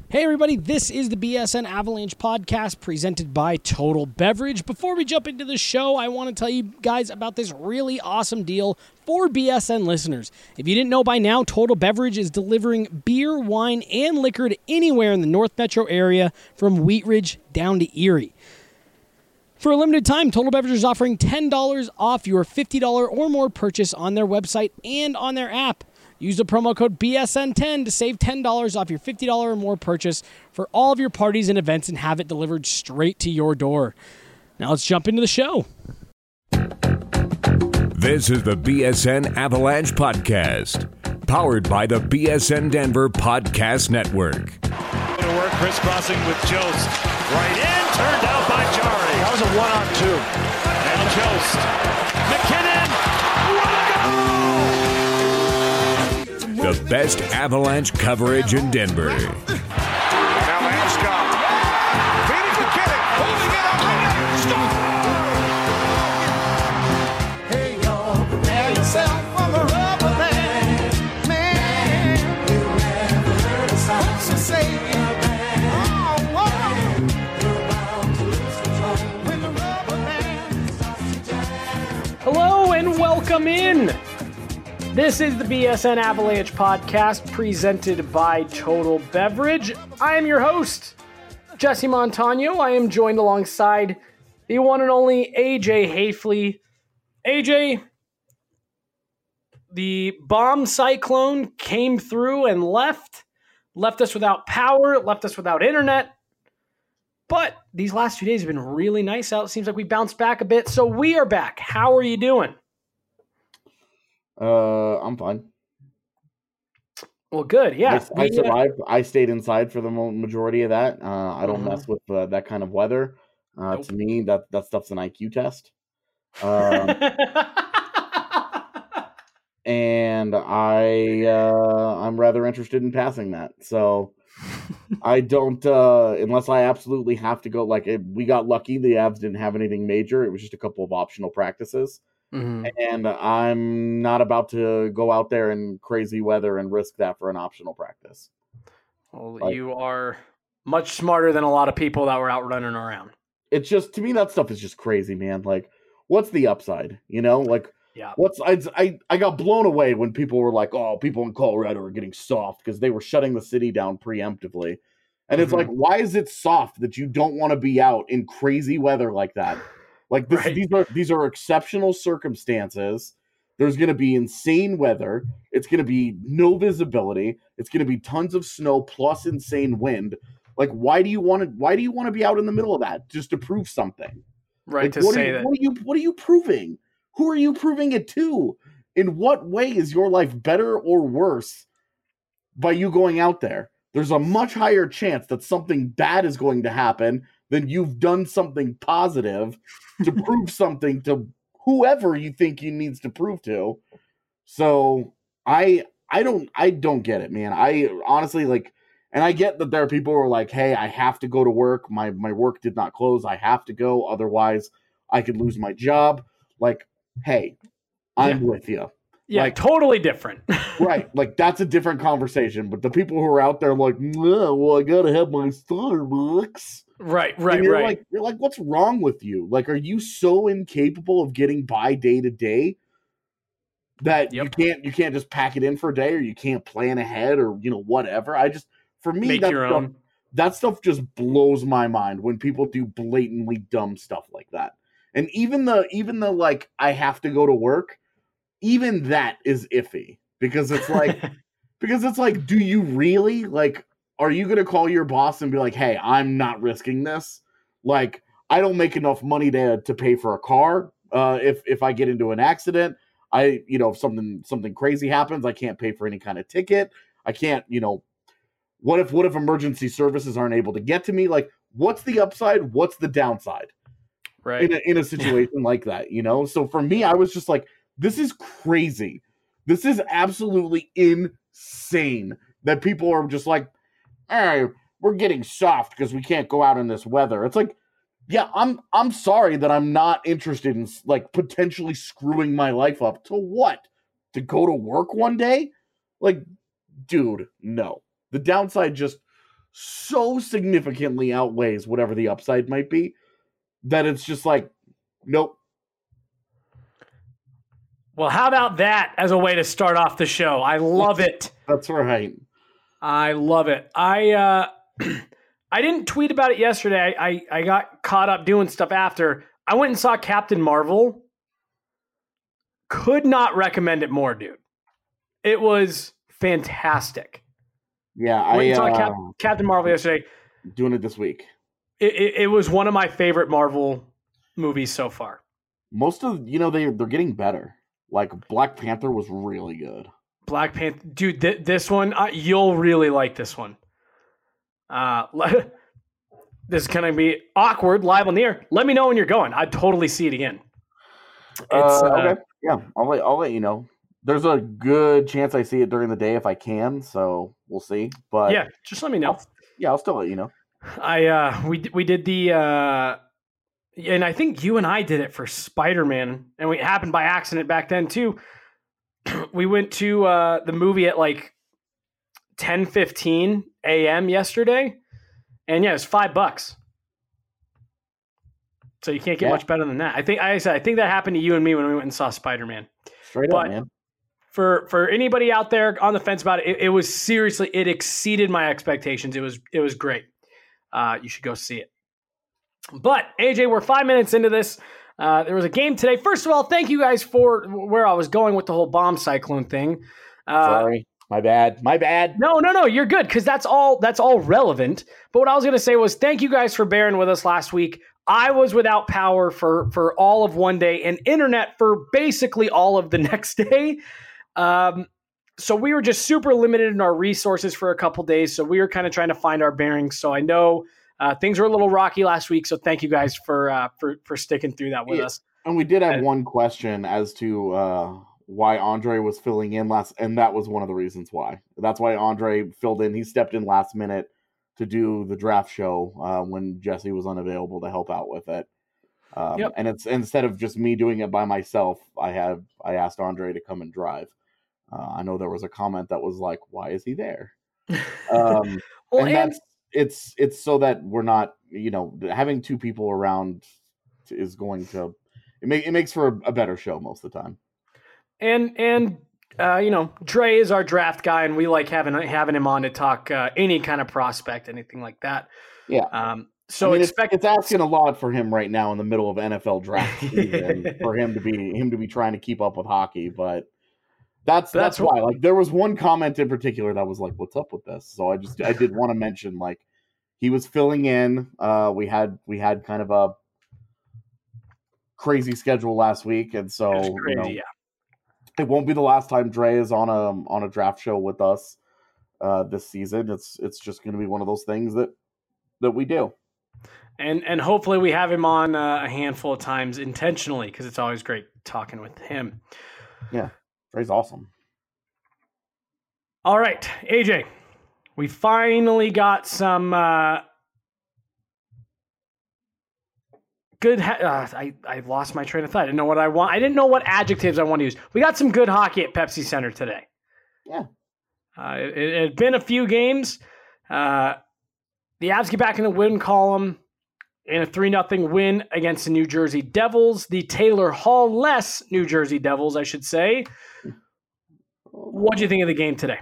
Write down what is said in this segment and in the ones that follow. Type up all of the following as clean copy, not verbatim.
Hey everybody, this is the BSN Avalanche podcast presented by Total Beverage. Before we jump into the show, I want to tell you guys about this really awesome deal for BSN listeners. If you didn't know by now, Total Beverage is delivering beer, wine, and liquor to anywhere in the North Metro area from Wheat Ridge down to Erie. For a limited time, Total Beverage is offering $10 off your $50 or more purchase on their website and on their app. Use the promo code BSN10 to save $10 off your $50 or more purchase for all of your parties and events and have it delivered straight to your door. Now let's jump into the show. This is the BSN Avalanche Podcast, powered by the BSN Denver Podcast Network. To work, crisscrossing with Jost. Right in, turned out by Jari. That was a one-on-two. And Jost. McKinnon. The best Avalanche coverage in Denver. Now Landeskog. Feeding McKinnon. Holding it up. Hey, y'all. Prepare yourself for the rubber band. Man, you never heard a song so say it. Hello and welcome in. This is the BSN Avalanche podcast presented by Total Beverage. I am your host, Jesse Montano. I am joined alongside the one and only AJ Hafley. AJ, the bomb cyclone came through and left us without power, left us without internet. But these last 2 days have been really nice out. It seems like we bounced back a bit, so we are back. How are you doing? I'm fine. Well, good. Yeah, I survived. I stayed inside for the majority of that. I don't mess with that kind of weather. Nope. To me, that stuff's an IQ test. And I'm rather interested in passing that. So I don't, unless I absolutely have to go. Like we got lucky, the Avs didn't have anything major. It was just a couple of optional practices. Mm-hmm. And I'm not about to go out there in crazy weather and risk that for an optional practice. Well, you are much smarter than a lot of people that were out running around. It's just, to me, that stuff is just crazy, man. Like, what's the upside? You know, like, yeah. I got blown away when people were like, oh, people in Colorado are getting soft because they were shutting the city down preemptively. And it's like, why is it soft that you don't want to be out in crazy weather like that? Like this, right. These are exceptional circumstances. There's going to be insane weather. It's going to be no visibility. It's going to be tons of snow plus insane wind. Like, why do you want to be out in the middle of that just to prove something? Right. Like, to say that. What are you proving? Who are you proving it to? In what way is your life better or worse by you going out there? There's a much higher chance that something bad is going to happen than you've done something positive to prove something to whoever you think you needs to prove to. So I don't get it, man. I honestly and I get that there are people who are like, hey, I have to go to work. My work did not close. I have to go. Otherwise I could lose my job. Like, hey, I'm with you. Yeah, like, totally different. Right. Like, that's a different conversation. But the people who are out there like, well, I got to have my Starbucks. Right. You're like, what's wrong with you? Like, are you so incapable of getting by day to day that you can't just pack it in for a day, or you can't plan ahead, or whatever? For me, that stuff just blows my mind when people do blatantly dumb stuff like that. And even the like, I have to go to work, even that is iffy because it's like do you really, like, are you going to call your boss and be like, hey, I'm not risking this? Like, I don't make enough money to pay for a car. If I get into an accident, if something crazy happens, I can't pay for any kind of ticket. I can't, what if emergency services aren't able to get to me? Like, what's the upside? What's the downside? Right. In a situation like that, So for me, I was just like, this is crazy. This is absolutely insane that people are just like, hey, we're getting soft because we can't go out in this weather. It's like, yeah, I'm sorry that I'm not interested in like potentially screwing my life up. To what? To go to work one day? Like, dude, no. The downside just so significantly outweighs whatever the upside might be that it's just like, nope. Well, how about that as a way to start off the show? I love it. That's right. I love it. I didn't tweet about it yesterday. I got caught up doing stuff after. I went and saw Captain Marvel. Could not recommend it more, dude. It was fantastic. Yeah, I saw Captain Marvel yesterday. Doing it this week. It was one of my favorite Marvel movies so far. Most of they're getting better. Like Black Panther was really good. Black Panther, dude. This one you'll really like this one. This is gonna be awkward live on the air. Let me know when you're going. I'd totally see it again. Okay. Yeah, I'll let you know. There's a good chance I see it during the day if I can, so we'll see. But yeah, just let me know. I'll still let you know. We did the and I think you and I did it for Spider-Man, and it happened by accident back then too. We went to the movie at like 10:15 a.m. yesterday, and yeah, it was $5. So you can't get much better than that. I think that happened to you and me when we went and saw Spider-Man. Straight up, man. For anybody out there on the fence about it, it was seriously, it exceeded my expectations. It was great. You should go see it. But AJ, we're 5 minutes into this. There was a game today. First of all, thank you guys for where I was going with the whole bomb cyclone thing. Sorry, my bad. No, you're good because that's all relevant. But what I was going to say was thank you guys for bearing with us last week. I was without power for all of one day and internet for basically all of the next day. So we were just super limited in our resources for a couple days. So we were kind of trying to find our bearings. So I know things were a little rocky last week. So thank you guys for sticking through that with us. And we did have one question as to why Andre was filling in last, and that was one of the reasons why. That's why Andre filled in. He stepped in last minute to do the draft show when Jesse was unavailable to help out with it. And it's instead of just me doing it by myself, I asked Andre to come and drive. I know there was a comment that was like, "Why is he there?" It's so that we're not, having two people around is going to it makes for a better show most of the time. And Dre is our draft guy, and we like having him on to talk any kind of prospect, anything like that. Yeah. So it's asking a lot for him right now in the middle of NFL draft season for him to be trying to keep up with hockey, but that's why. Like there was one comment in particular that was like, "What's up with this?" So I did want to mention like he was filling in. We had kind of a crazy schedule last week, and so it was crazy, it won't be the last time Dre is on a draft show with us this season. It's just going to be one of those things that we do. And hopefully we have him on a handful of times intentionally because it's always great talking with him. Yeah, Dre's awesome. All right, AJ, we finally got some good. I lost my train of thought. I didn't know what I want. I didn't know what adjectives I want to use. We got some good hockey at Pepsi Center today. Yeah, it had been a few games. The Avs get back in the win column in a 3-0 win against the New Jersey Devils. The Taylor Hall-less New Jersey Devils, I should say. What do you think of the game today?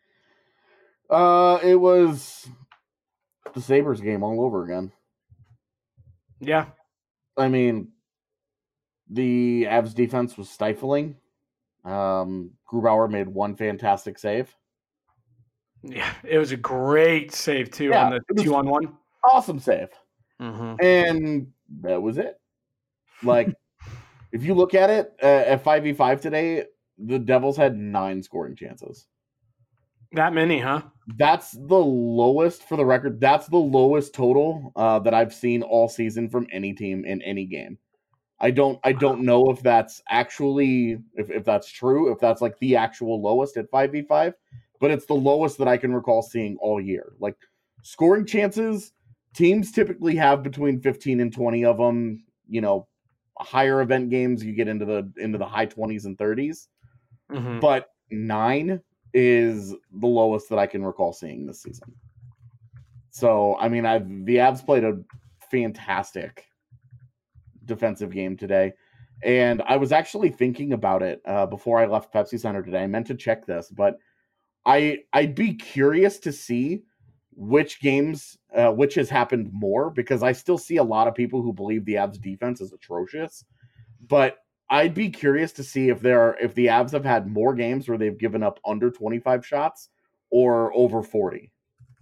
It was the Sabres game all over again. Yeah. I mean, the Avs defense was stifling. Grubauer made one fantastic save. Yeah, it was a great save, too, on the 2-on-1. Awesome save. Mm-hmm. And that was it. Like, if you look at it, at 5v5 today, the Devils had 9 scoring chances. That many, huh? That's the lowest, for the record, that's the lowest total that I've seen all season from any team in any game. I don't know if that's actually, if that's true, if that's like the actual lowest at 5v5, but it's the lowest that I can recall seeing all year. Like, scoring chances, teams typically have between 15 and 20 of them. Higher event games, you get into the high 20s and 30s. Mm-hmm. But 9 is the lowest that I can recall seeing this season. So, I mean, the Avs played a fantastic defensive game today. And I was actually thinking about it before I left Pepsi Center today. I meant to check this, but I'd be curious to see which games, which has happened more, because I still see a lot of people who believe the Avs defense is atrocious. But I'd be curious to see if the Avs have had more games where they've given up under 25 shots or over 40.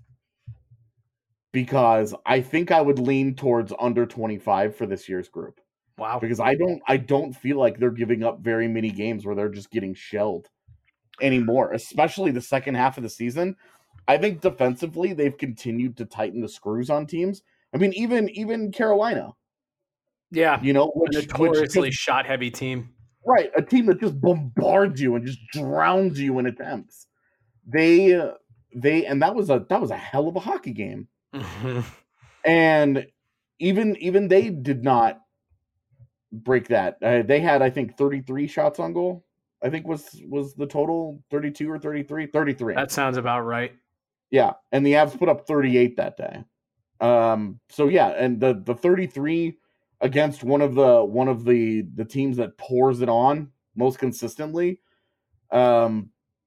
Because I think I would lean towards under 25 for this year's group. Wow. Because I don't feel like they're giving up very many games where they're just getting shelled anymore, especially the second half of the season. I think defensively they've continued to tighten the screws on teams. I mean, even Carolina. Yeah. You know, a notoriously shot heavy team. Right. A team that just bombards you and just drowns you in attempts. And that was a hell of a hockey game. Mm-hmm. And even they did not break that. They had, I think, 33 shots on goal. I think was the total 32 or 33? 33. That sounds about right. Yeah, and the Avs put up 38 that day. So yeah, and the 33 against one of the teams that pours it on most consistently. I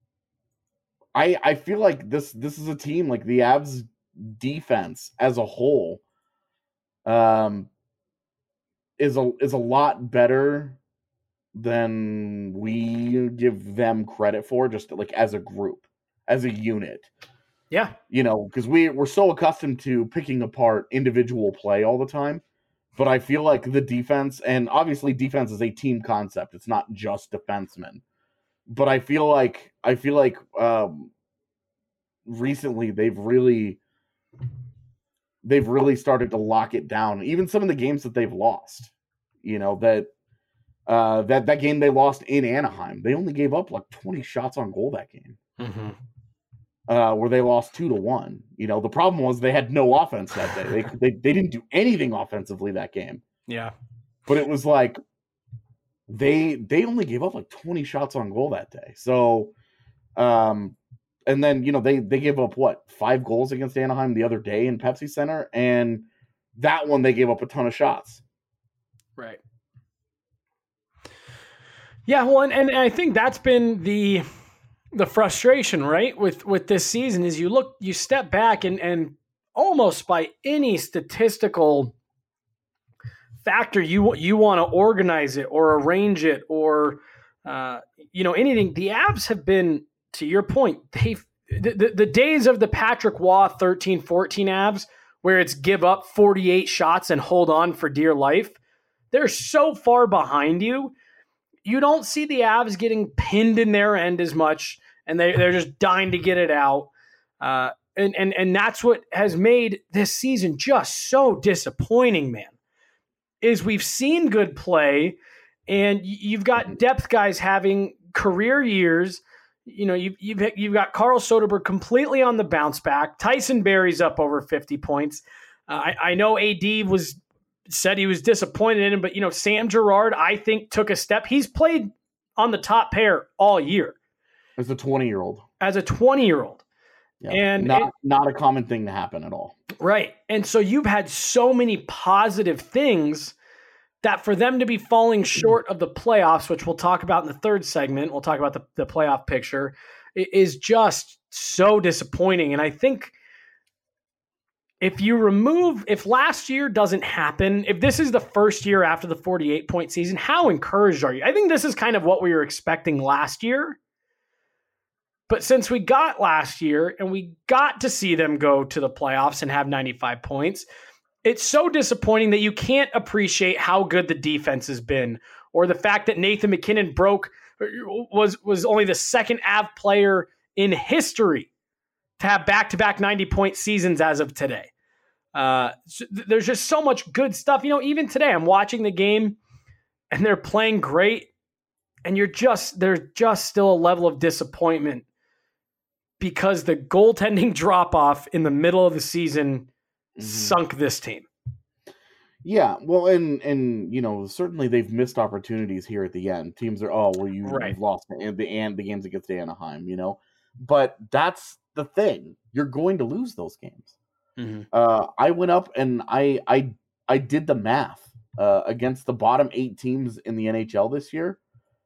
feel like this is a team, like the Avs defense as a whole is a lot better than we give them credit for, just like as a group, as a unit. Yeah. You know, because we're so accustomed to picking apart individual play all the time. But I feel like the defense, and obviously defense is a team concept. It's not just defensemen. But I feel like recently they've really started to lock it down. Even some of the games that they've lost, you know, that game they lost in Anaheim, they only gave up like 20 shots on goal that game. Mm-hmm. Where they lost 2-1. You know, the problem was they had no offense that day. They didn't do anything offensively that game. Yeah. But it was like they only gave up like 20 shots on goal that day. So and then, you know, they gave up 5 goals against Anaheim the other day in Pepsi Center, and that one they gave up a ton of shots. Right. Yeah, well, and I think that's been the frustration, right, with this season is you step back and almost by any statistical factor you want to organize it or arrange it or anything. The Avs have been, to your point, the days of the Patrick Waugh 13-14 Avs where it's give up 48 shots and hold on for dear life, they're so far behind you. You don't see the Avs getting pinned in their end as much, and they're just dying to get it out. And that's what has made this season just so disappointing, man, is we've seen good play, and you've got depth guys having career years. You know, you've got Carl Soderberg completely on the bounce back. Tyson Barrie's up over 50 points. I know AD said he was disappointed in him, but, you know, Sam Girard, I think, took a step. He's played on the top pair all year. As a 20-year-old. Yeah, and not a common thing to happen at all. Right. And so you've had so many positive things that for them to be falling short of the playoffs, which we'll talk about in the third segment, we'll talk about the playoff picture, is just so disappointing. And I think if last year doesn't happen, if this is the first year after the 48-point season, how encouraged are you? I think this is kind of what we were expecting last year. But since we got last year and we got to see them go to the playoffs and have 95 points, it's so disappointing that you can't appreciate how good the defense has been, or the fact that Nathan MacKinnon was only the second Av player in history to have back-to-back 90-point seasons as of today. There's just so much good stuff. You know, even today I'm watching the game and they're playing great, and there's just still a level of disappointment because the goaltending drop-off in the middle of the season sunk this team. Yeah, well, and you know, certainly they've missed opportunities here at the end. Teams are, you've lost the games against Anaheim, you know. But that's the thing. You're going to lose those games. I went up and I did the math against the bottom 8 teams in the NHL this year.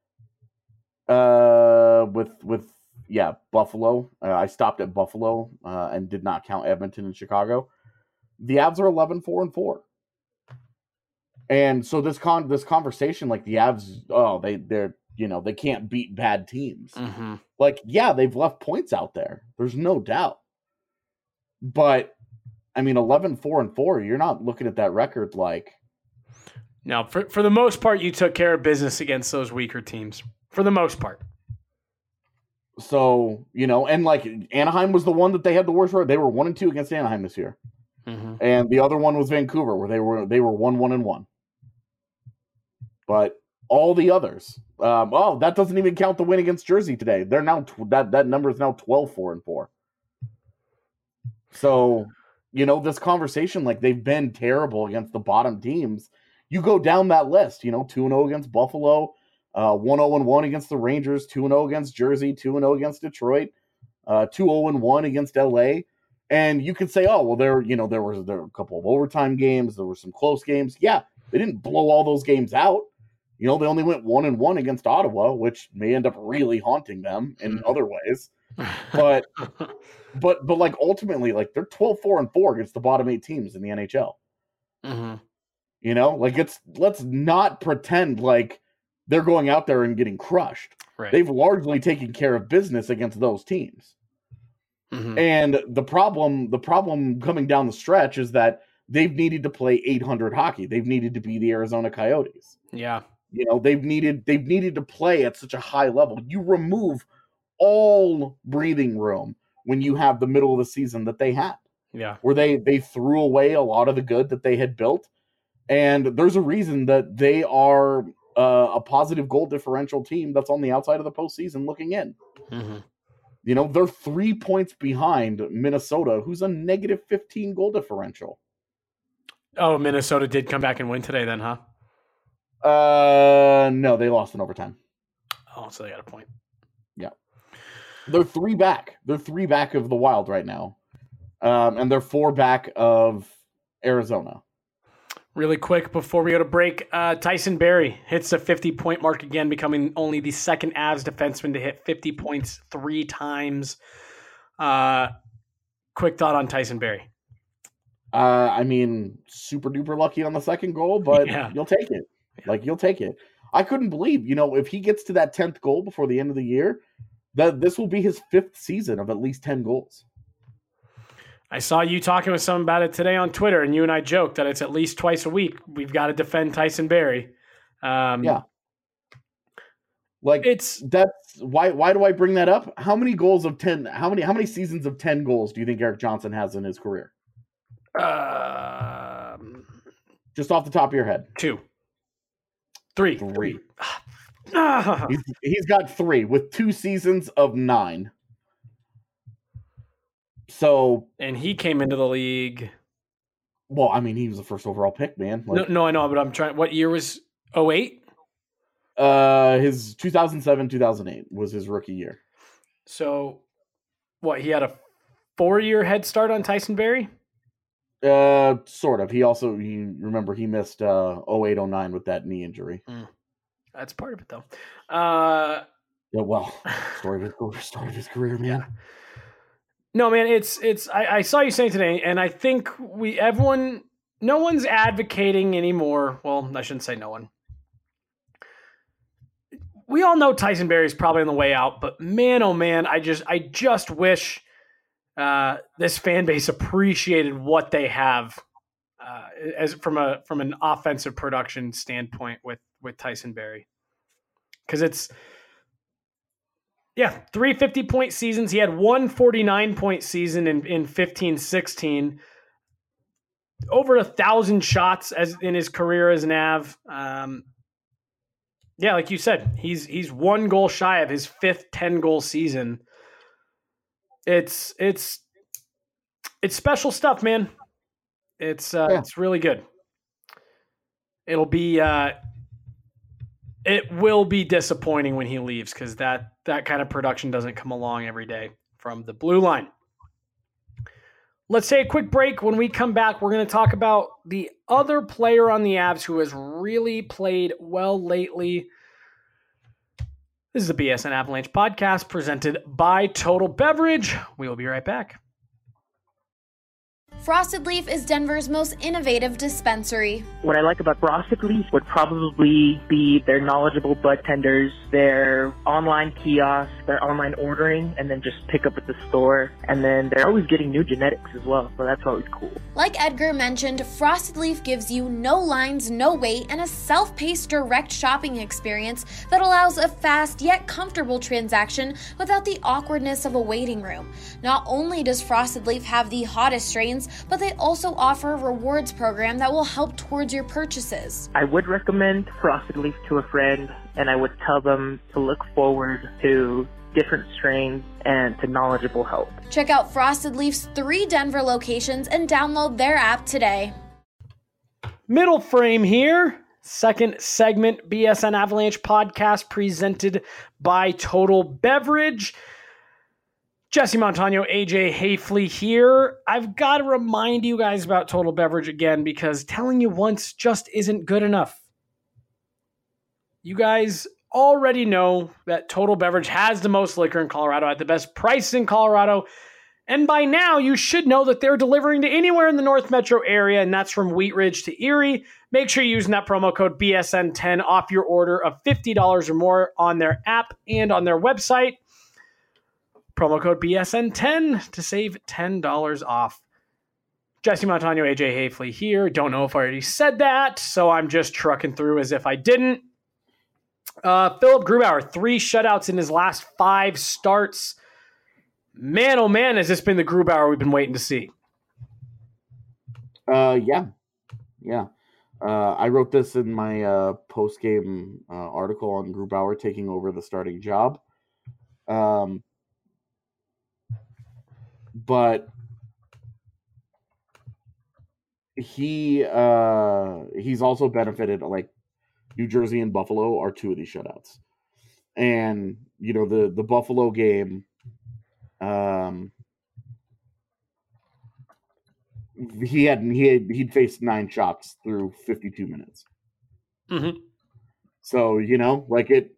With Buffalo. I stopped at Buffalo and did not count Edmonton and Chicago. The Avs are 11-4-4. And so this conversation, like the Avs, they can't beat bad teams. Like, yeah, they've left points out there. There's no doubt. But I mean, 11-4-4, you're not looking at that record like. Now, for the most part, you took care of business against those weaker teams. For the most part. So, and like Anaheim was the one that they had the worst record. They were 1-2 against Anaheim this year. And the other one was Vancouver, where they were 1-1-1. But all the others, that doesn't even count the win against Jersey today. They're now that number is now 12-4-4. So, this conversation, like they've been terrible against the bottom teams. You go down that list, 2-0 against Buffalo, 1-0-1 against the Rangers, 2-0 against Jersey, 2-0 against Detroit, 2-0-1 against LA. And you could say, oh, well, there were a couple of overtime games. There were some close games. Yeah, they didn't blow all those games out. They only went 1-1 against Ottawa, which may end up really haunting them in other ways. But like ultimately, like they're 12-4-4 against the bottom 8 teams in the NHL. Let's not pretend like they're going out there and getting crushed. Right. They've largely taken care of business against those teams. And the problem coming down the stretch is that they've needed to play 800 hockey. They've needed to be the Arizona Coyotes. Yeah. They've needed to play at such a high level. You remove all breathing room when you have the middle of the season that they had. Yeah. Where they threw away a lot of the good that they had built. And there's a reason that they are a positive goal differential team that's on the outside of the postseason looking in. They're 3 points behind Minnesota, who's a negative 15 goal differential. Oh, Minnesota did come back and win today then, huh? No, they lost in overtime. Oh, so they got a point. Yeah. They're 3 back. They're 3 back of the Wild right now. And they're 4 back of Arizona. Really quick before we go to break, Tyson Barrie hits the 50-point mark again, becoming only the second Avs defenseman to hit 50 points 3 times. Quick thought on Tyson Barrie. I mean, super duper lucky on the second goal, but you'll take it. Like, you'll take it. I couldn't believe, if he gets to that 10th goal before the end of the year, that this will be his 5th season of at least 10 goals. I saw you talking with someone about it today on Twitter, and you and I joked that it's at least twice a week we've got to defend Tyson Barrie. Yeah. Like that's why do I bring that up? How many goals of 10? How many seasons of 10 goals do you think Erik Johnson has in his career? Just off the top of your head. 2. 3. He's got 3 with 2 seasons of 9. So, and he came into the league. Well, I mean, he was the first overall pick, man. Like, no, I know, but I'm trying. What year was 2008? His 2007-2008 was his rookie year. So, what? He had a 4-year head start on Tyson Barrie. Sort of. He missed 08-09 with that knee injury. That's part of it, though. Yeah, well, story of his career, man. Yeah. No, man, I saw you saying today, and I think no one's advocating anymore. Well, I shouldn't say no one. We all know Tyson Barrie's probably on the way out, but man, oh man, I just wish this fan base appreciated what they have as from an offensive production standpoint with Tyson Barrie, because it's. Yeah, 3 50-point seasons. He had 1 49-point season in 15-16. Over 1,000 shots as in his career as an Av. Yeah, like you said, he's 1 goal shy of his 5th 10-goal season. It's special stuff, man. It's really good. It will be disappointing when he leaves, because that kind of production doesn't come along every day from the blue line. Let's take a quick break. When we come back, we're going to talk about the other player on the Avs who has really played well lately. This is the BSN Avalanche podcast presented by Total Beverage. We will be right back. Frosted Leaf is Denver's most innovative dispensary. What I like about Frosted Leaf would probably be their knowledgeable bud tenders, their online kiosk, their online ordering, and then just pick up at the store. And then they're always getting new genetics as well, so that's always cool. Like Edgar mentioned, Frosted Leaf gives you no lines, no wait, and a self-paced direct shopping experience that allows a fast yet comfortable transaction without the awkwardness of a waiting room. Not only does Frosted Leaf have the hottest strains, but they also offer a rewards program that will help towards your purchases. I would recommend Frosted Leaf to a friend, and I would tell them to look forward to different strains and to knowledgeable help. Check out Frosted Leaf's 3 Denver locations and download their app today. Middle frame here. Second segment, BSN Avalanche podcast presented by Total Beverage. Jesse Montano, AJ Hafley here. I've got to remind you guys about Total Beverage again because telling you once just isn't good enough. You guys already know that Total Beverage has the most liquor in Colorado at the best price in Colorado. And by now, you should know that they're delivering to anywhere in the North Metro area, and that's from Wheat Ridge to Erie. Make sure you're using that promo code BSN10 off your order of $50 or more on their app and on their website. Promo code BSN10 to save $10 off. Jesse Montano, AJ Hafley here. Don't know if I already said that, so I'm just trucking through as if I didn't. Philip Grubauer, 3 shutouts in his last 5 starts. Man, oh man, has this been the Grubauer we've been waiting to see. Yeah. I wrote this in my post-game article on Grubauer taking over the starting job. But he's also benefited, like New Jersey and Buffalo are 2 of these shutouts. And, you know, the Buffalo game, he'd faced 9 shots through 52 minutes. Mm-hmm. So, you know, like it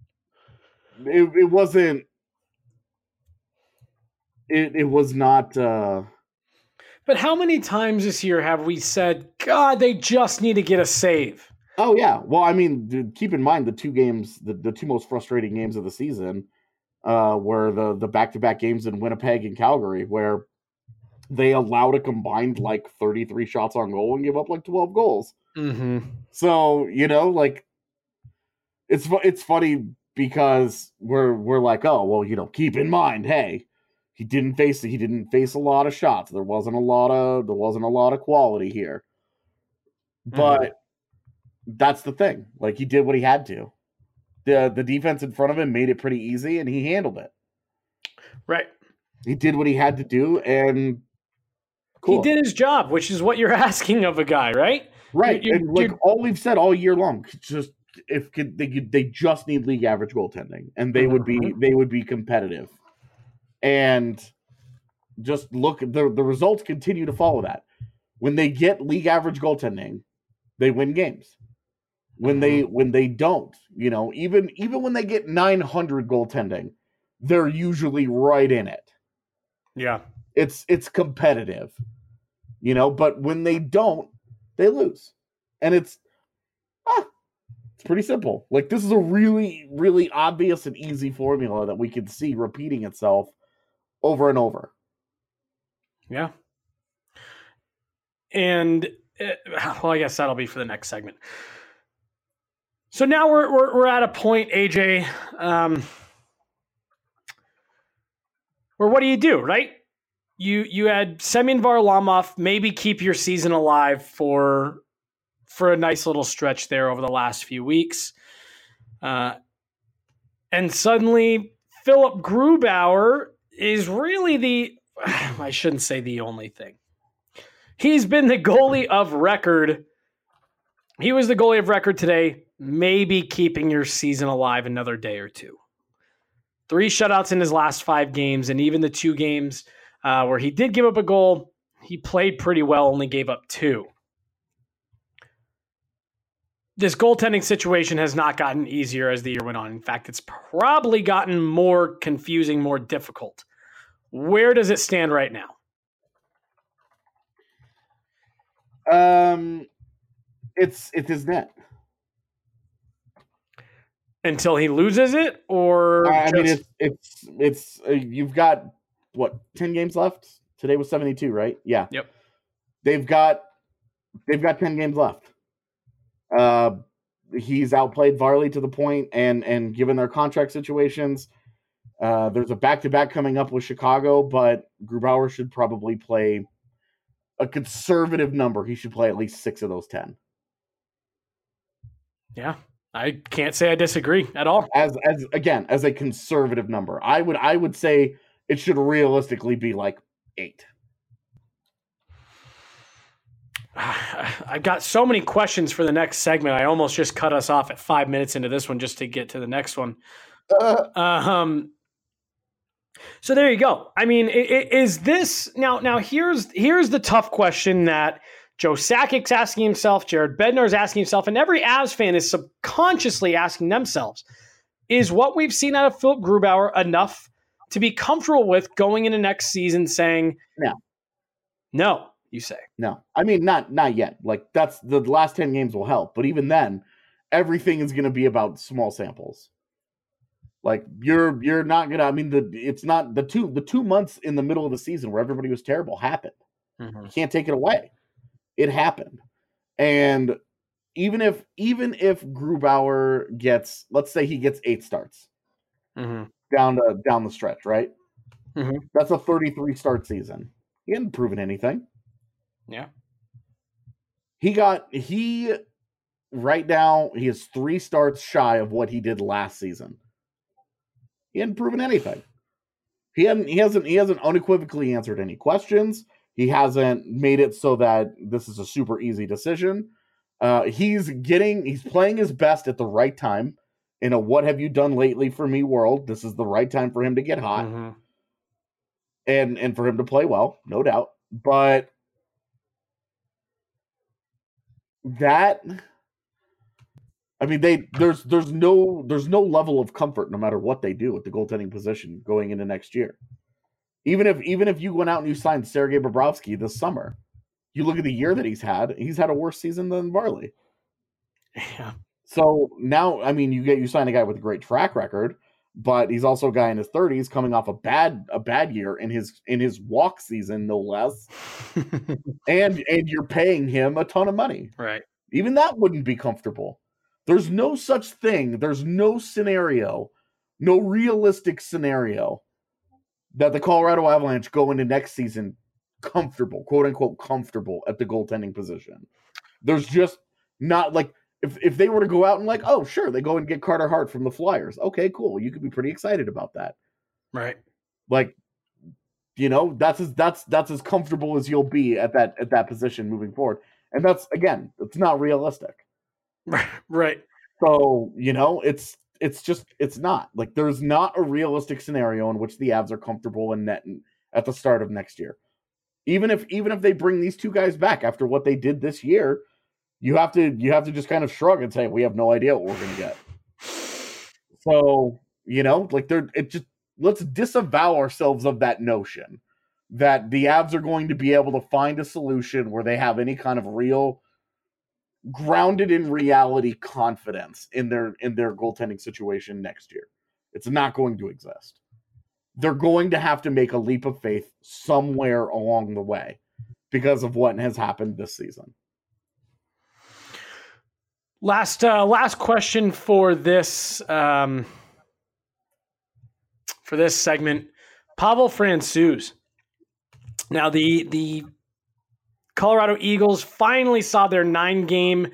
wasn't, it was not. But how many times this year have we said, God, they just need to get a save? Oh, yeah. Well, I mean, dude, keep in mind the 2 games, the 2 most frustrating games of the season were the back-to-back games in Winnipeg and Calgary, where they allowed a combined, like, 33 shots on goal and give up, like, 12 goals. Mm-hmm. So, you know, like, it's funny because we're like, oh, well, you know, keep in mind, hey, he didn't face a lot of shots. There wasn't a lot of quality here. But that's the thing. Like, he did what he had to. The defense in front of him made it pretty easy, and he handled it. Right. He did what he had to do, and cool. He did his job, which is what you're asking of a guy, right? Right. And like all we've said all year long, just they just need league average goaltending, and they would be competitive. And just look, the results continue to follow that. When they get league average goaltending, they win games. When they don't, you know, even when they get 900 goaltending, they're usually right in it. Yeah. It's competitive, you know, but when they don't, they lose. And it's pretty simple. Like, this is a really, really obvious and easy formula that we can see repeating itself over and over. Yeah. And well, I guess that'll be for the next segment. So now we're at a point, AJ, where what do, right? You had Semyon Varlamov maybe keep your season alive for a nice little stretch there over the last few weeks. And suddenly Philip Grubauer is really I shouldn't say the only thing. He's been the goalie of record. He was the goalie of record today, maybe keeping your season alive another day or 2. 3 shutouts in his last 5 games, and even the 2 games where he did give up a goal, He played pretty well, only gave up 2. This goaltending situation has not gotten easier as the year went on. In fact, it's probably gotten more confusing, more difficult. Where does it stand right now? It's his net. Until he loses it, or I mean, it's you've got what 10 games left. Today was 72, right? Yeah. Yep. They've got 10 games left. He's outplayed Varley to the point, and given their contract situations, there's a back-to-back coming up with Chicago, but Grubauer should probably play a conservative number. He should play at least 6 of those 10. Yeah, I can't say I disagree at all. As a conservative number, I would say it should realistically be like 8. I've got so many questions for the next segment. I almost just cut us off at 5 minutes into this one just to get to the next one. So there you go. I mean, is this now? Here's the tough question that Joe Sakic's asking himself, Jared Bednar's asking himself, and every Avs fan is subconsciously asking themselves: is what we've seen out of Philip Grubauer enough to be comfortable with going into next season? Saying no. You say no. I mean, not yet. Like that's the last 10 games will help, but even then, everything is going to be about small samples. Like you're not gonna. I mean, it's not the 2 months in the middle of the season where everybody was terrible happened. Mm-hmm. You can't take it away. It happened, and even if Grubauer gets, let's say he gets 8 starts down the stretch, right? Mm-hmm. That's a 33 start season. He hadn't proven anything. Yeah. Right now he is 3 starts shy of what he did last season. He hadn't proven anything. He hasn't unequivocally answered any questions. He hasn't made it so that this is a super easy decision. He's playing his best at the right time in a what have you done lately for me world. This is the right time for him to get hot. Mm-hmm. And for him to play well, no doubt. But that, I mean, there's no level of comfort no matter what they do at the goaltending position going into next year. Even if you went out and you signed Sergei Bobrovsky this summer, you look at the year that he's had a worse season than Varley. Yeah. So now, I mean, you sign a guy with a great track record, but he's also a guy in his 30s coming off a bad year in his walk season, no less. and you're paying him a ton of money. Right. Even that wouldn't be comfortable. There's no such thing. There's no scenario, no realistic scenario that the Colorado Avalanche go into next season comfortable, quote unquote, comfortable at the goaltending position. There's just not like, if they were to go out and like, oh, sure, they go and get Carter Hart from the Flyers. Okay, cool. You could be pretty excited about that. Right. Like, that's as comfortable as you'll be at that position moving forward. And that's, again, it's not realistic. Right. So, it's not. Like, there's not a realistic scenario in which the Avs are comfortable in net at the start of next year. Even if they bring these 2 guys back after what they did this year, you have to just kind of shrug and say, we have no idea what we're going to get. So, let's disavow ourselves of that notion that the Avs are going to be able to find a solution where they have any kind of real grounded in reality confidence in their goaltending situation next year. It's not going to exist. They're going to have to make a leap of faith somewhere along the way because of what has happened this season. Last question for this segment, Pavel Francouz. Now the Colorado Eagles finally saw their 9-game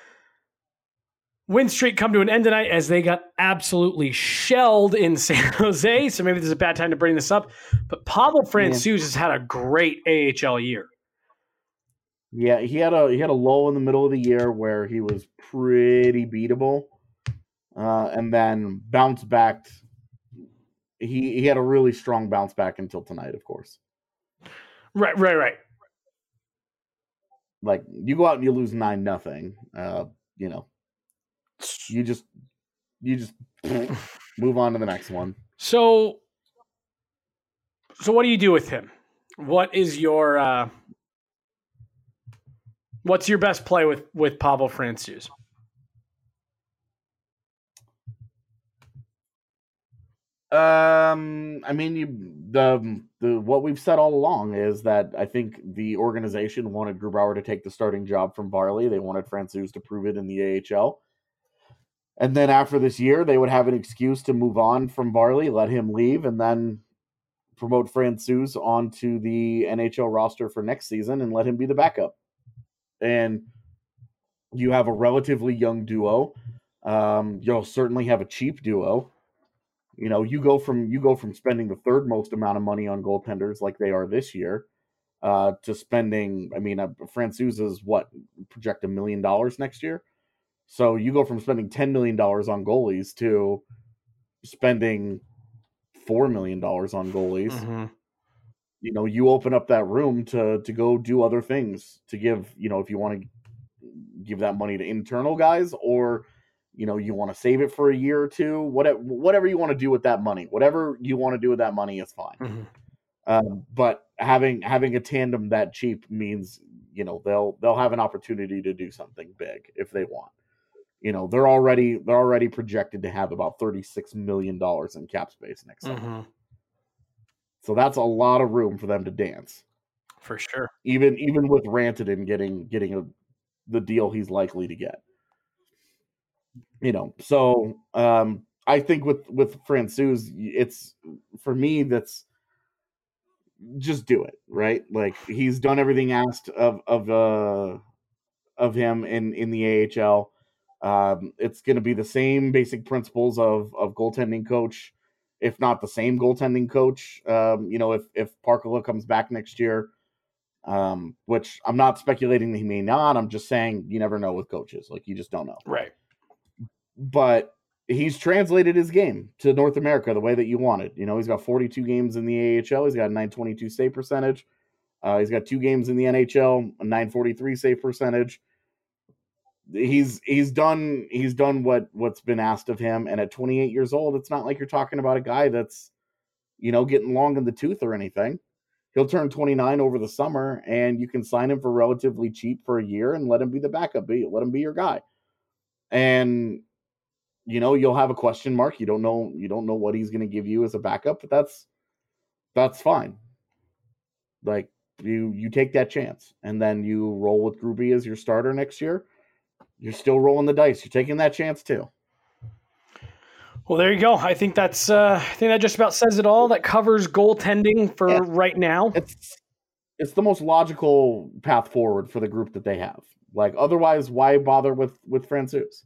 win streak come to an end tonight as they got absolutely shelled in San Jose. So maybe this is a bad time to bring this up, but Pavel Francouz has had a great AHL year. Yeah, he had a lull in the middle of the year where he was pretty beatable, and then bounced back. He had a really strong bounce back until tonight, of course. Right. Like, you go out and you lose 9-0. You just move on to the next one. So what do you do with him? What is your what's your best play with Pavel Francouz? I mean, the what we've said all along is that I think the organization wanted Grubauer to take the starting job from Varley. They wanted Francouz to prove it in the AHL. And then after this year, they would have an excuse to move on from Varley, let him leave, and then promote Francouz onto the NHL roster for next season and let him be the backup. And you have a relatively young duo. You'll certainly have a cheap duo. You go from spending the third most amount of money on goaltenders like they are this year to spending. I mean, Francouz is project $1 million next year. So you go from spending $10 million on goalies to spending $4 million on goalies. Mm-hmm. You open up that room to go do other things, to give, if you want to give that money to internal guys, or you want to save it for a year or two, whatever you want to do with that money. Whatever you want to do with that money is fine. Mm-hmm. But having a tandem that cheap means they'll have an opportunity to do something big if they want. They're already projected to have about $36 million in cap space next summer. Mm-hmm. So that's a lot of room for them to dance. For sure. Even with Rantanen getting the deal he's likely to get. So I think with Francouz, it's, for me, that's just do it, right? Like, he's done everything asked of him in the AHL. It's going to be the same basic principles of goaltending coach, if not the same goaltending coach. If Parkala comes back next year, which I'm not speculating that he may not. I'm just saying you never know with coaches. Like, you just don't know. Right. But he's translated his game to North America the way that you wanted. He's got 42 games in the AHL. He's got a .922 save percentage. He's got 2 games in the NHL, a .943 save percentage. He's done what's been asked of him. And at 28 years old, it's not like you're talking about a guy that's, getting long in the tooth or anything. He'll turn 29 over the summer, and you can sign him for relatively cheap for a year and let him be the backup. Let him be your guy. And you'll have a question mark. You don't know what he's going to give you as a backup, but that's fine. Like, you take that chance, and then you roll with Gruby as your starter next year. You're still rolling the dice. You're taking that chance too. Well, there you go. I think that just about says it all. That covers goaltending for right now. It's the most logical path forward for the group that they have. Like, otherwise, why bother with Francouz?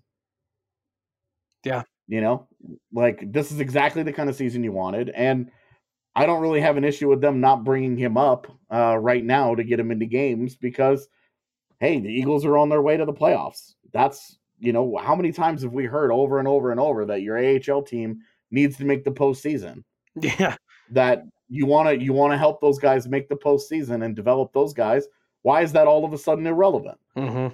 Yeah. Like, this is exactly the kind of season you wanted. And I don't really have an issue with them not bringing him up right now to get him into games, because, hey, the Eagles are on their way to the playoffs. That's, how many times have we heard over and over and over that your AHL team needs to make the postseason? Yeah. That you want to help those guys make the postseason and develop those guys. Why is that all of a sudden irrelevant? Mm-hmm.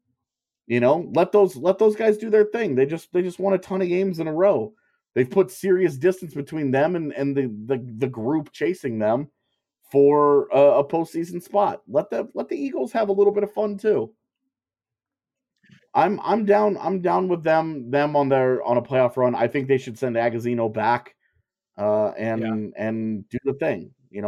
Let those guys do their thing. They just won a ton of games in a row. They've put serious distance between them and the group chasing them for a postseason spot. Let the Eagles have a little bit of fun too. I'm down with them on a playoff run. I think they should send Agazino back and do the thing.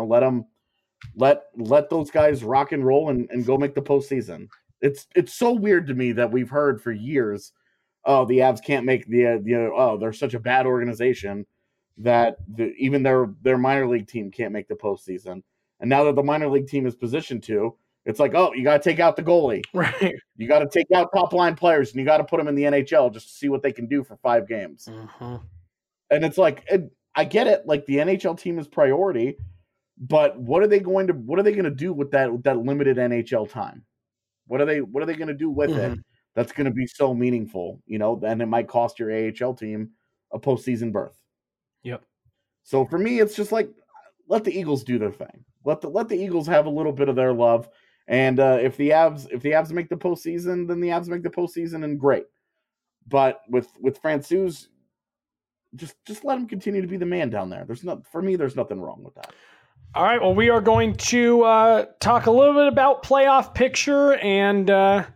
Let those guys rock and roll and go make the postseason. It's so weird to me that we've heard for years, oh, the Avs can't make they're such a bad organization that even their minor league team can't make the postseason. And now that the minor league team is positioned to, it's like, oh, you got to take out the goalie. Right. You got to take out top line players, and you got to put them in the NHL just to see what they can do for 5 games. Mm-hmm. And it's like, I get it. Like, the NHL team is priority, but what are they going to do with that limited NHL time? What are they going to do with it that's going to be so meaningful? And it might cost your AHL team a postseason berth. Yep. So for me, it's just like, let the Eagles do their thing. Let the Eagles have a little bit of their love. And if the Avs make the postseason, then the Avs make the postseason, and great. But with Francouz, just let him continue to be the man down there. There's nothing wrong with that. All right. Well, we are going to talk a little bit about playoff picture and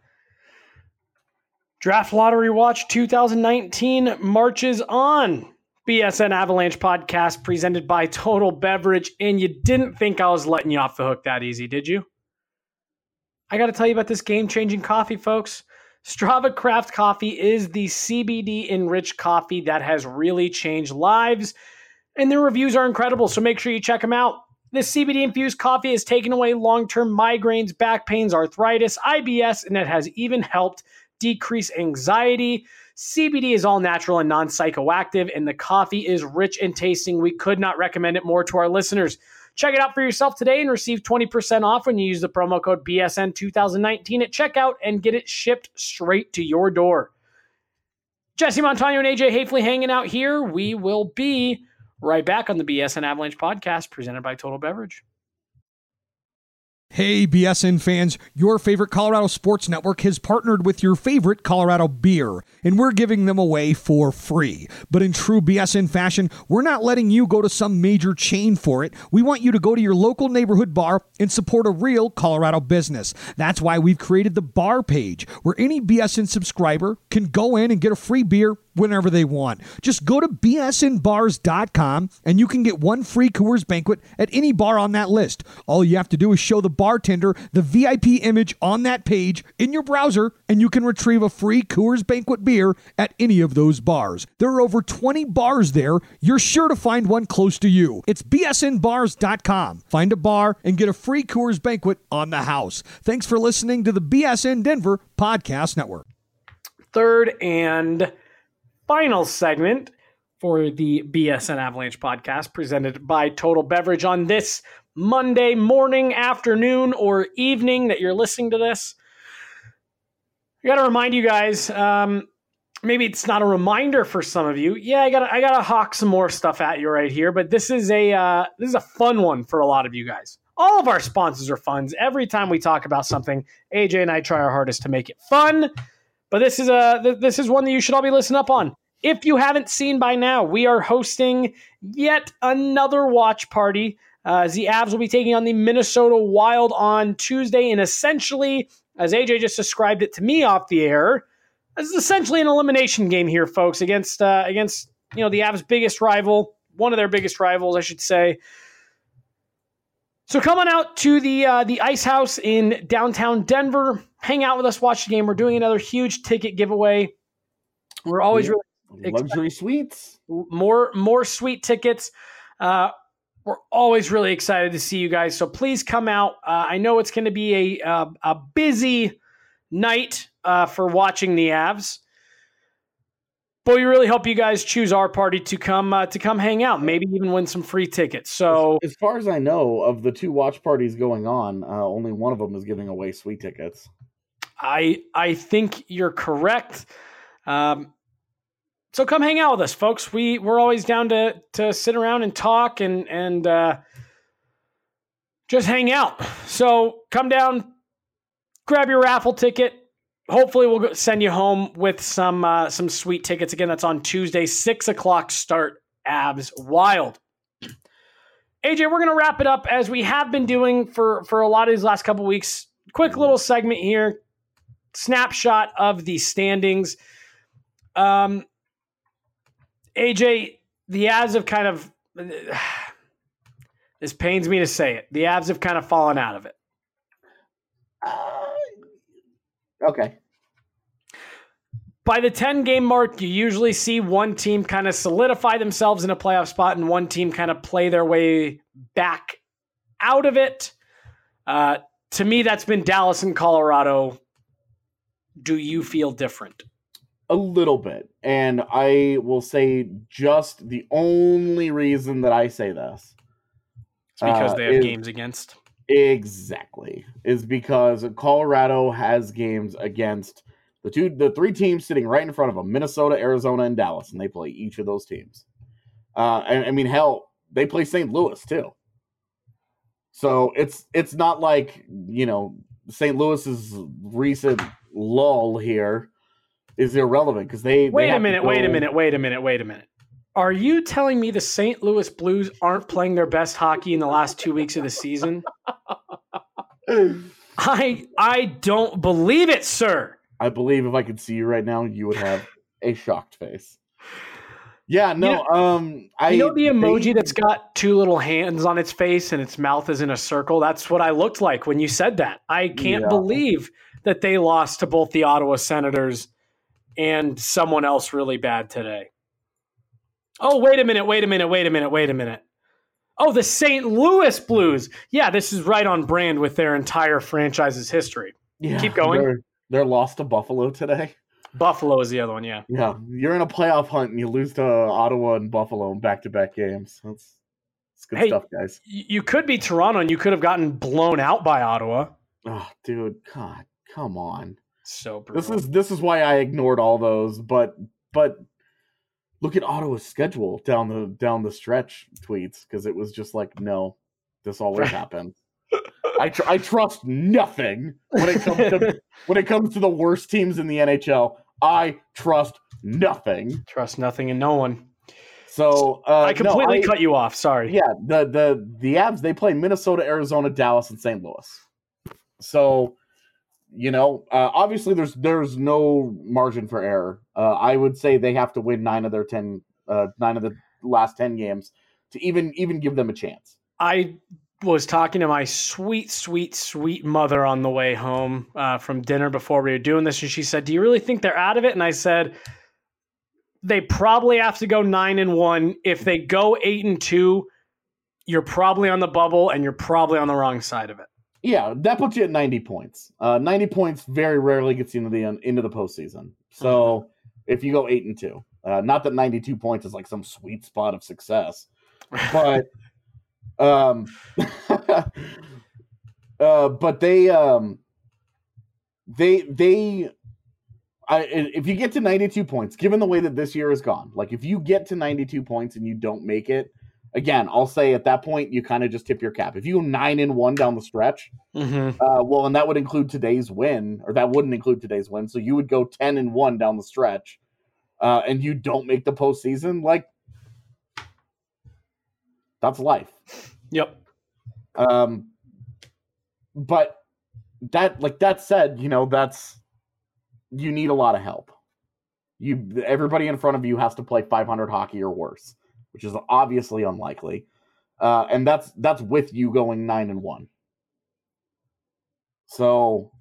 Draft Lottery Watch 2019 marches on. BSN Avalanche podcast presented by Total Beverage. And you didn't think I was letting you off the hook that easy, did you? I got to tell you about this game-changing coffee, folks. Strava Craft Coffee is the CBD-enriched coffee that has really changed lives, and their reviews are incredible, so make sure you check them out. This CBD-infused coffee has taken away long-term migraines, back pains, arthritis, IBS, and it has even helped decrease anxiety. CBD is all natural and non-psychoactive, and the coffee is rich in tasting. We could not recommend it more to our listeners. Check it out for yourself today and receive 20% off when you use the promo code BSN2019 at checkout and get it shipped straight to your door. Jesse Montano and AJ Hafley hanging out here. We will be right back on the BSN Avalanche podcast presented by Total Beverage. Hey, BSN fans, your favorite Colorado Sports Network has partnered with your favorite Colorado beer, and we're giving them away for free. But in true BSN fashion, we're not letting you go to some major chain for it. We want you to go to your local neighborhood bar and support a real Colorado business. That's why we've created the bar page, where any BSN subscriber can go in and get a free beer whenever they want. Just go to bsnbars.com and you can get one free Coors Banquet at any bar on that list. All you have to do is show the bartender the VIP image on that page in your browser, and you can retrieve a free Coors Banquet beer at any of those bars. There are over 20 bars there. You're sure to find one close to you. It's bsnbars.com. Find a bar and get a free Coors Banquet on the house. Thanks for listening to the BSN Denver Podcast Network. Third and final segment for the BSN Avalanche podcast presented by Total Beverage on this Monday morning, afternoon, or evening that you're listening to this. I got to remind you guys, maybe it's not a reminder for some of you. Yeah, I gotta hawk some more stuff at you right here, but this is a fun one for a lot of you guys. All of our sponsors are fun. Every time we talk about something, AJ and I try our hardest to make it fun. But this is one that you should all be listening up on. If you haven't seen by now, we are hosting yet another watch party. The Avs will be taking on the Minnesota Wild on Tuesday, and essentially, as AJ just described it to me off the air, this is essentially an elimination game here, folks, against the Avs' biggest rival, one of their biggest rivals, I should say. So come on out to the Ice House in downtown Denver. Hang out with us, watch the game. We're doing another huge ticket giveaway. We're always really luxury suites, more sweet tickets. We're always really excited to see you guys. So please come out. I know it's going to be a busy night for watching the Avs, but we really hope you guys choose our party to come hang out. Maybe even win some free tickets. So as far as I know, of the two watch parties going on, only one of them is giving away sweet tickets. I think you're correct. So come hang out with us, folks. We're always down to sit around and talk and just hang out. So come down, grab your raffle ticket. Hopefully we'll send you home with some sweet tickets. Again, that's on Tuesday, 6:00 start, Avs Wild. AJ, we're going to wrap it up as we have been doing for a lot of these last couple weeks. Quick little segment here. Snapshot of the standings. AJ, the Avs have kind of, this pains me to say it, the Avs have kind of fallen out of it. Okay. By the 10-game mark, you usually see one team kind of solidify themselves in a playoff spot and one team kind of play their way back out of it. To me, that's been Dallas and Colorado. Do you feel different? A little bit. And I will say just the only reason that I say this. It's because they have games against. Exactly. Is because Colorado has games against the three teams sitting right in front of them, Minnesota, Arizona, and Dallas, and they play each of those teams. And I mean, hell, they play St. Louis too. So it's not like, St. Louis's recent lull here is irrelevant because they Wait a minute. Are you telling me the St. Louis Blues aren't playing their best hockey in the last 2 weeks of the season? I don't believe it, sir. I believe if I could see you right now, you would have a shocked face. Yeah, no. You know the emoji that's got two little hands on its face and its mouth is in a circle? That's what I looked like when you said that. I can't believe that they lost to both the Ottawa Senators and someone else really bad today. Oh, wait a minute. Oh, the St. Louis Blues. Yeah, this is right on brand with their entire franchise's history. Yeah, keep going. They're lost to Buffalo today. Buffalo is the other one, yeah. Yeah, you're in a playoff hunt and you lose to Ottawa and Buffalo in back-to-back games. That's good stuff, guys. You could be Toronto and you could have gotten blown out by Ottawa. Oh, dude, God, come on. So brutal. This is why I ignored all those, but look at Ottawa's schedule down the stretch tweets because it was just like, no, this always happens. I trust nothing when it comes to the worst teams in the NHL. I trust nothing. Trust nothing and no one. So I completely cut you off. Sorry. Yeah, the Avs, they play Minnesota, Arizona, Dallas, and St. Louis. So, obviously there's no margin for error. I would say they have to win 9 of the last 10 games to even give them a chance. I was talking to my sweet, sweet, sweet mother on the way home from dinner before we were doing this, and she said, "Do you really think they're out of it?" And I said, "They probably have to go 9-1. If they go 8-2, you're probably on the bubble, and you're probably on the wrong side of it." Yeah, that puts you at 90 points. 90 points very rarely gets you into the postseason. So if you go 8-2, not that 92 points is like some sweet spot of success, but but if you get to 92 points, given the way that this year has gone, like if you get to 92 points and you don't make it, again, I'll say at that point, you kind of just tip your cap. If you go 9-1 down the stretch, and that would include today's win, or that wouldn't include today's win. So you would go 10-1 down the stretch, and you don't make the postseason, like that's life. Yep. But that said, you need a lot of help. Everybody in front of you has to play 500 hockey or worse, which is obviously unlikely. And that's with you going 9-1. So,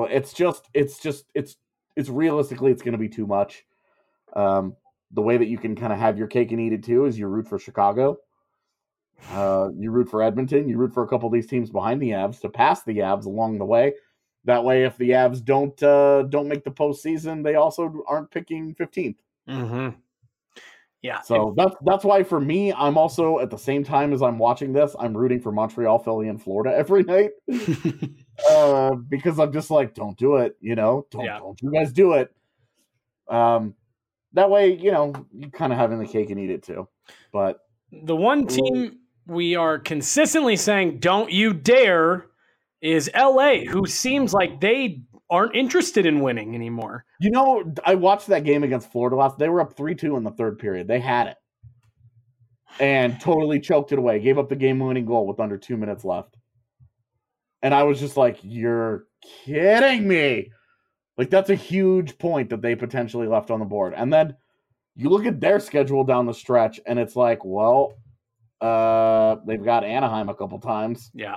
it's realistically, it's going to be too much. The way that you can kind of have your cake and eat it too is you root for Chicago. You root for Edmonton. You root for a couple of these teams behind the Avs to pass the Avs along the way. That way, if the Avs don't make the postseason, they also aren't picking 15th. Mm-hmm. Yeah. So that's why for me, I'm also at the same time as I'm watching this, I'm rooting for Montreal, Philly, and Florida every night because I'm just like, don't do it. Don't you guys do it. That way, you kind of having the cake and eat it too. But the one team we are consistently saying, don't you dare, is LA, who seems like they aren't interested in winning anymore. I watched that game against Florida they were up 3-2 in the third period. They had it. And totally choked it away. Gave up the game-winning goal with under 2 minutes left. And I was just like, you're kidding me. Like, that's a huge point that they potentially left on the board. And then you look at their schedule down the stretch, and it's like, well, they've got Anaheim a couple times. Yeah.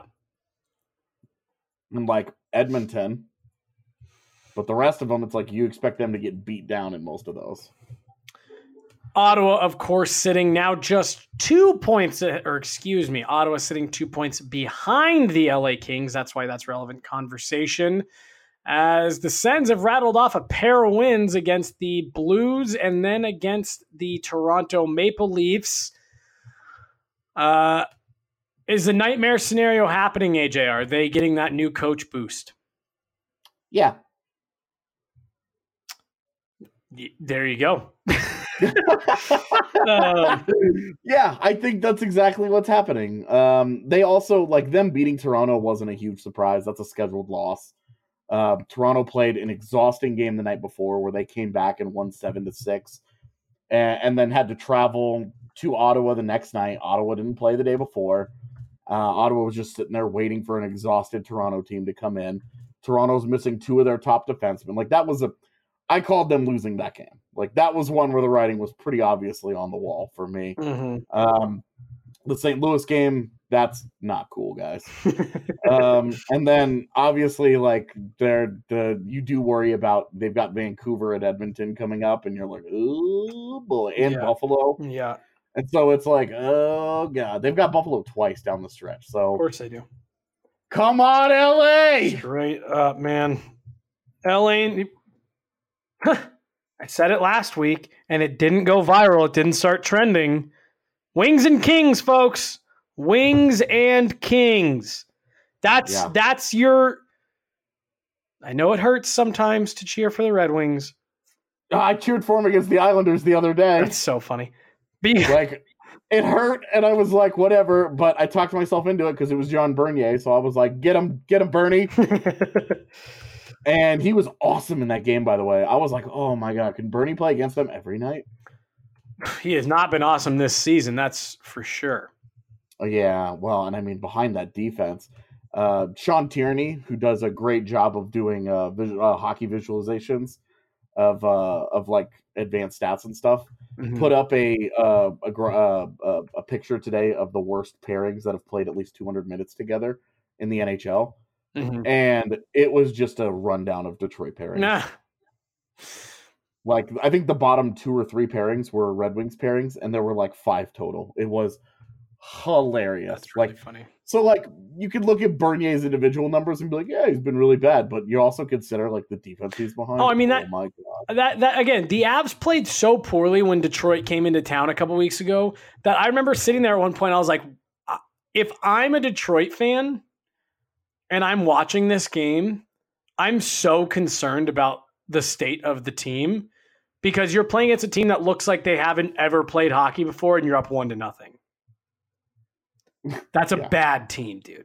And, like, Edmonton. But the rest of them, it's like you expect them to get beat down in most of those. Ottawa, of course, sitting now just 2 points, Ottawa sitting 2 points behind the LA Kings. That's why that's relevant conversation. As the Sens have rattled off a pair of wins against the Blues and then against the Toronto Maple Leafs. Is the nightmare scenario happening, AJ? Are they getting that new coach boost? Yeah. There you go. Yeah, I think that's exactly what's happening. They also, like, them beating Toronto wasn't a huge surprise. That's a scheduled loss. Toronto played an exhausting game the night before where they came back and won 7-6 and then had to travel to Ottawa the next night. Ottawa didn't play the day before. Ottawa was just sitting there waiting for an exhausted Toronto team to come in. Toronto's missing 2 of their top defensemen. Like, that was I called them losing that game. Like, that was one where the writing was pretty obviously on the wall for me. Mm-hmm. The St. Louis game, that's not cool, guys. And then obviously, like, you do worry about, they've got Vancouver and Edmonton coming up, and you're like, oh boy, and Buffalo. Yeah. And so it's like, oh god, they've got Buffalo twice down the stretch. So of course they do. Come on, LA! Straight up, man. LA. I said it last week, and it didn't go viral. It didn't start trending. Wings and Kings, folks. Wings and Kings. That's your. I know it hurts sometimes to cheer for the Red Wings. I cheered for them against the Islanders the other day. That's so funny. Like, it hurt, and I was like, whatever. But I talked myself into it because it was John Bernier, so I was like, get him, Bernie. And he was awesome in that game, by the way. I was like, oh my god, can Bernie play against them every night? He has not been awesome this season, that's for sure. Yeah, well, and I mean, behind that defense, Sean Tierney, who does a great job of doing hockey visualizations of like advanced stats and stuff, put up a picture today of the worst pairings that have played at least 200 minutes together in the NHL. And it was just a rundown of Detroit pairings. Like, I think the bottom 2 or 3 pairings were Red Wings pairings, and there were like 5 total. It was hilarious. That's really funny. So, like, you could look at Bernier's individual numbers and be like, yeah, he's been really bad, but you also consider, like, the defense he's behind. Oh, I mean, oh my god, that again, the Avs played so poorly when Detroit came into town a couple weeks ago that I remember sitting there at one point. I was like, if I'm a Detroit fan and I'm watching this game, I'm so concerned about the state of the team because you're playing against a team that looks like they haven't ever played hockey before and you're up 1-0. That's a bad team, dude.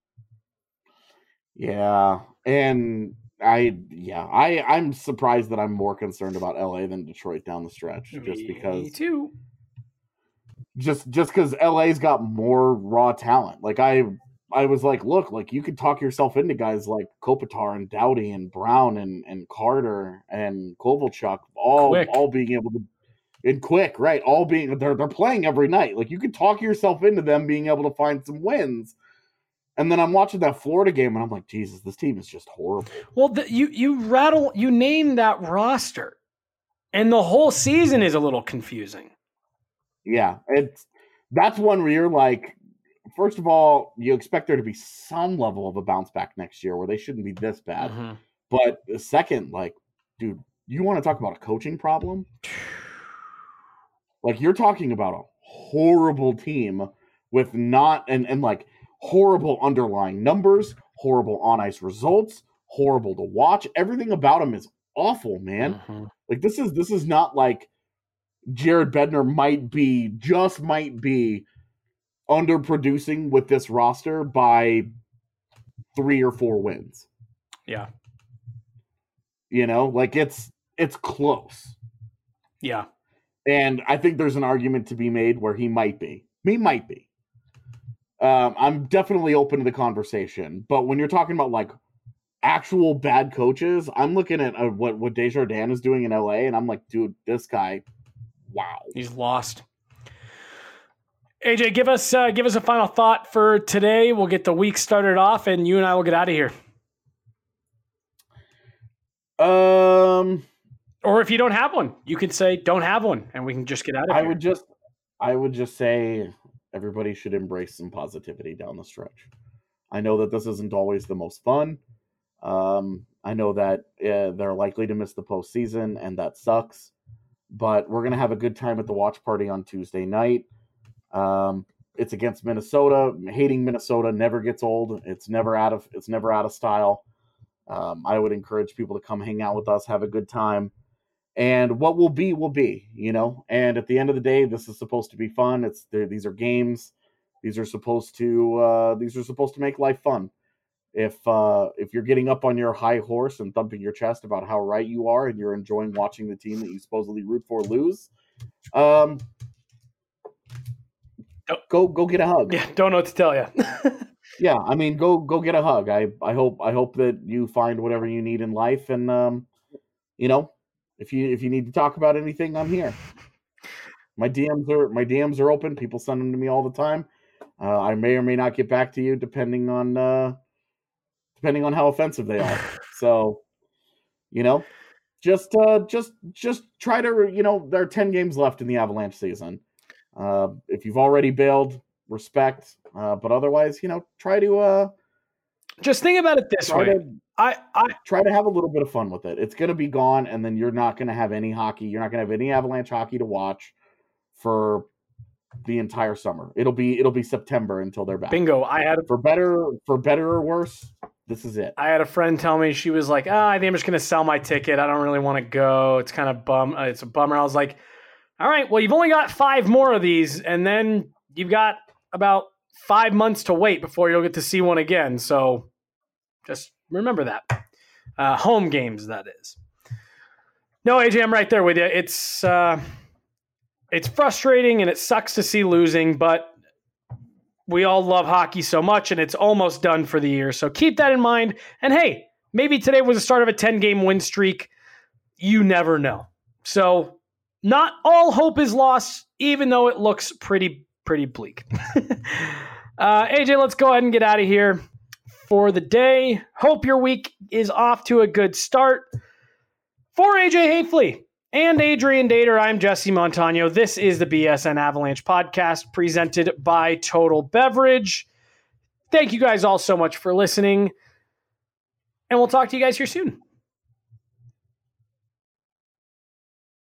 Yeah. And I'm surprised that I'm more concerned about LA than Detroit down the stretch. Me too. Just because LA's got more raw talent. Like, I was like, look, like, you could talk yourself into guys like Kopitar and Doughty and Brown and Carter and Kovalchuk all being able to, and Quick, right? All being, they're playing every night. Like, you could talk yourself into them being able to find some wins. And then I'm watching that Florida game and I'm like, Jesus, this team is just horrible. Well, you name that roster and the whole season is a little confusing. Yeah. That's one where you're like, first of all, you expect there to be some level of a bounce back next year where they shouldn't be this bad. But second, like, dude, you want to talk about a coaching problem? Like, you're talking about a horrible team with like horrible underlying numbers, horrible on ice results, horrible to watch. Everything about them is awful, man. Like, this is not like Jared Bednar might be underproducing with this roster by 3 or 4 wins. Yeah. You know, like, it's close. Yeah. And I think there's an argument to be made where he might be. He might be. I'm definitely open to the conversation. But when you're talking about, like, actual bad coaches, I'm looking at what Desjardins is doing in LA, and I'm like, dude, this guy, wow. He's lost. AJ, give us a final thought for today. We'll get the week started off, and you and I will get out of here. Or if you don't have one, you can say don't have one, and we can just get out of here. I would just say everybody should embrace some positivity down the stretch. I know that this isn't always the most fun. I know that they're likely to miss the postseason, and that sucks. But we're gonna have a good time at the watch party on Tuesday night. It's against Minnesota. Hating Minnesota never gets old. It's never out of style. I would encourage people to come hang out with us, have a good time. And what will be, you know. And at the end of the day, this is supposed to be fun. These are games. These are supposed to make life fun. If you're getting up on your high horse and thumping your chest about how right you are, and you're enjoying watching the team that you supposedly root for lose, go get a hug. Yeah, don't know what to tell you. Yeah, I mean, go get a hug. I hope that you find whatever you need in life, and you know, if you need to talk about anything, I'm here. My DMs are open. People send them to me all the time. I may or may not get back to you depending on how offensive they are. So, you know, just try to, you know, there are 10 games left in the Avalanche season. If you've already bailed, respect. But otherwise, you know, try to just think about it this way. I try to have a little bit of fun with it. It's going to be gone, and then you're not going to have any hockey. You're not going to have any Avalanche hockey to watch for the entire summer. It'll be September until they're back. Bingo. For better or worse, this is it. I had a friend tell me, she was like, I think I'm just going to sell my ticket. I don't really want to go. It's kind of it's a bummer. I was like, all right, well, you've only got 5 more of these, and then you've got about 5 months to wait before you'll get to see one again. So just remember that. Home games, that is. No, AJ, I'm right there with you. It's frustrating and it sucks to see losing, but we all love hockey so much, and it's almost done for the year. So keep that in mind. And hey, maybe today was the start of a 10-game win streak. You never know. So not all hope is lost, even though it looks pretty bleak. AJ, let's go ahead and get out of here for the day. Hope your week is off to a good start. For AJ Hafley and Adrian Dater, I'm Jesse Montano. This is the BSN Avalanche podcast presented by Total Beverage. Thank you guys all so much for listening, and we'll talk to you guys here soon.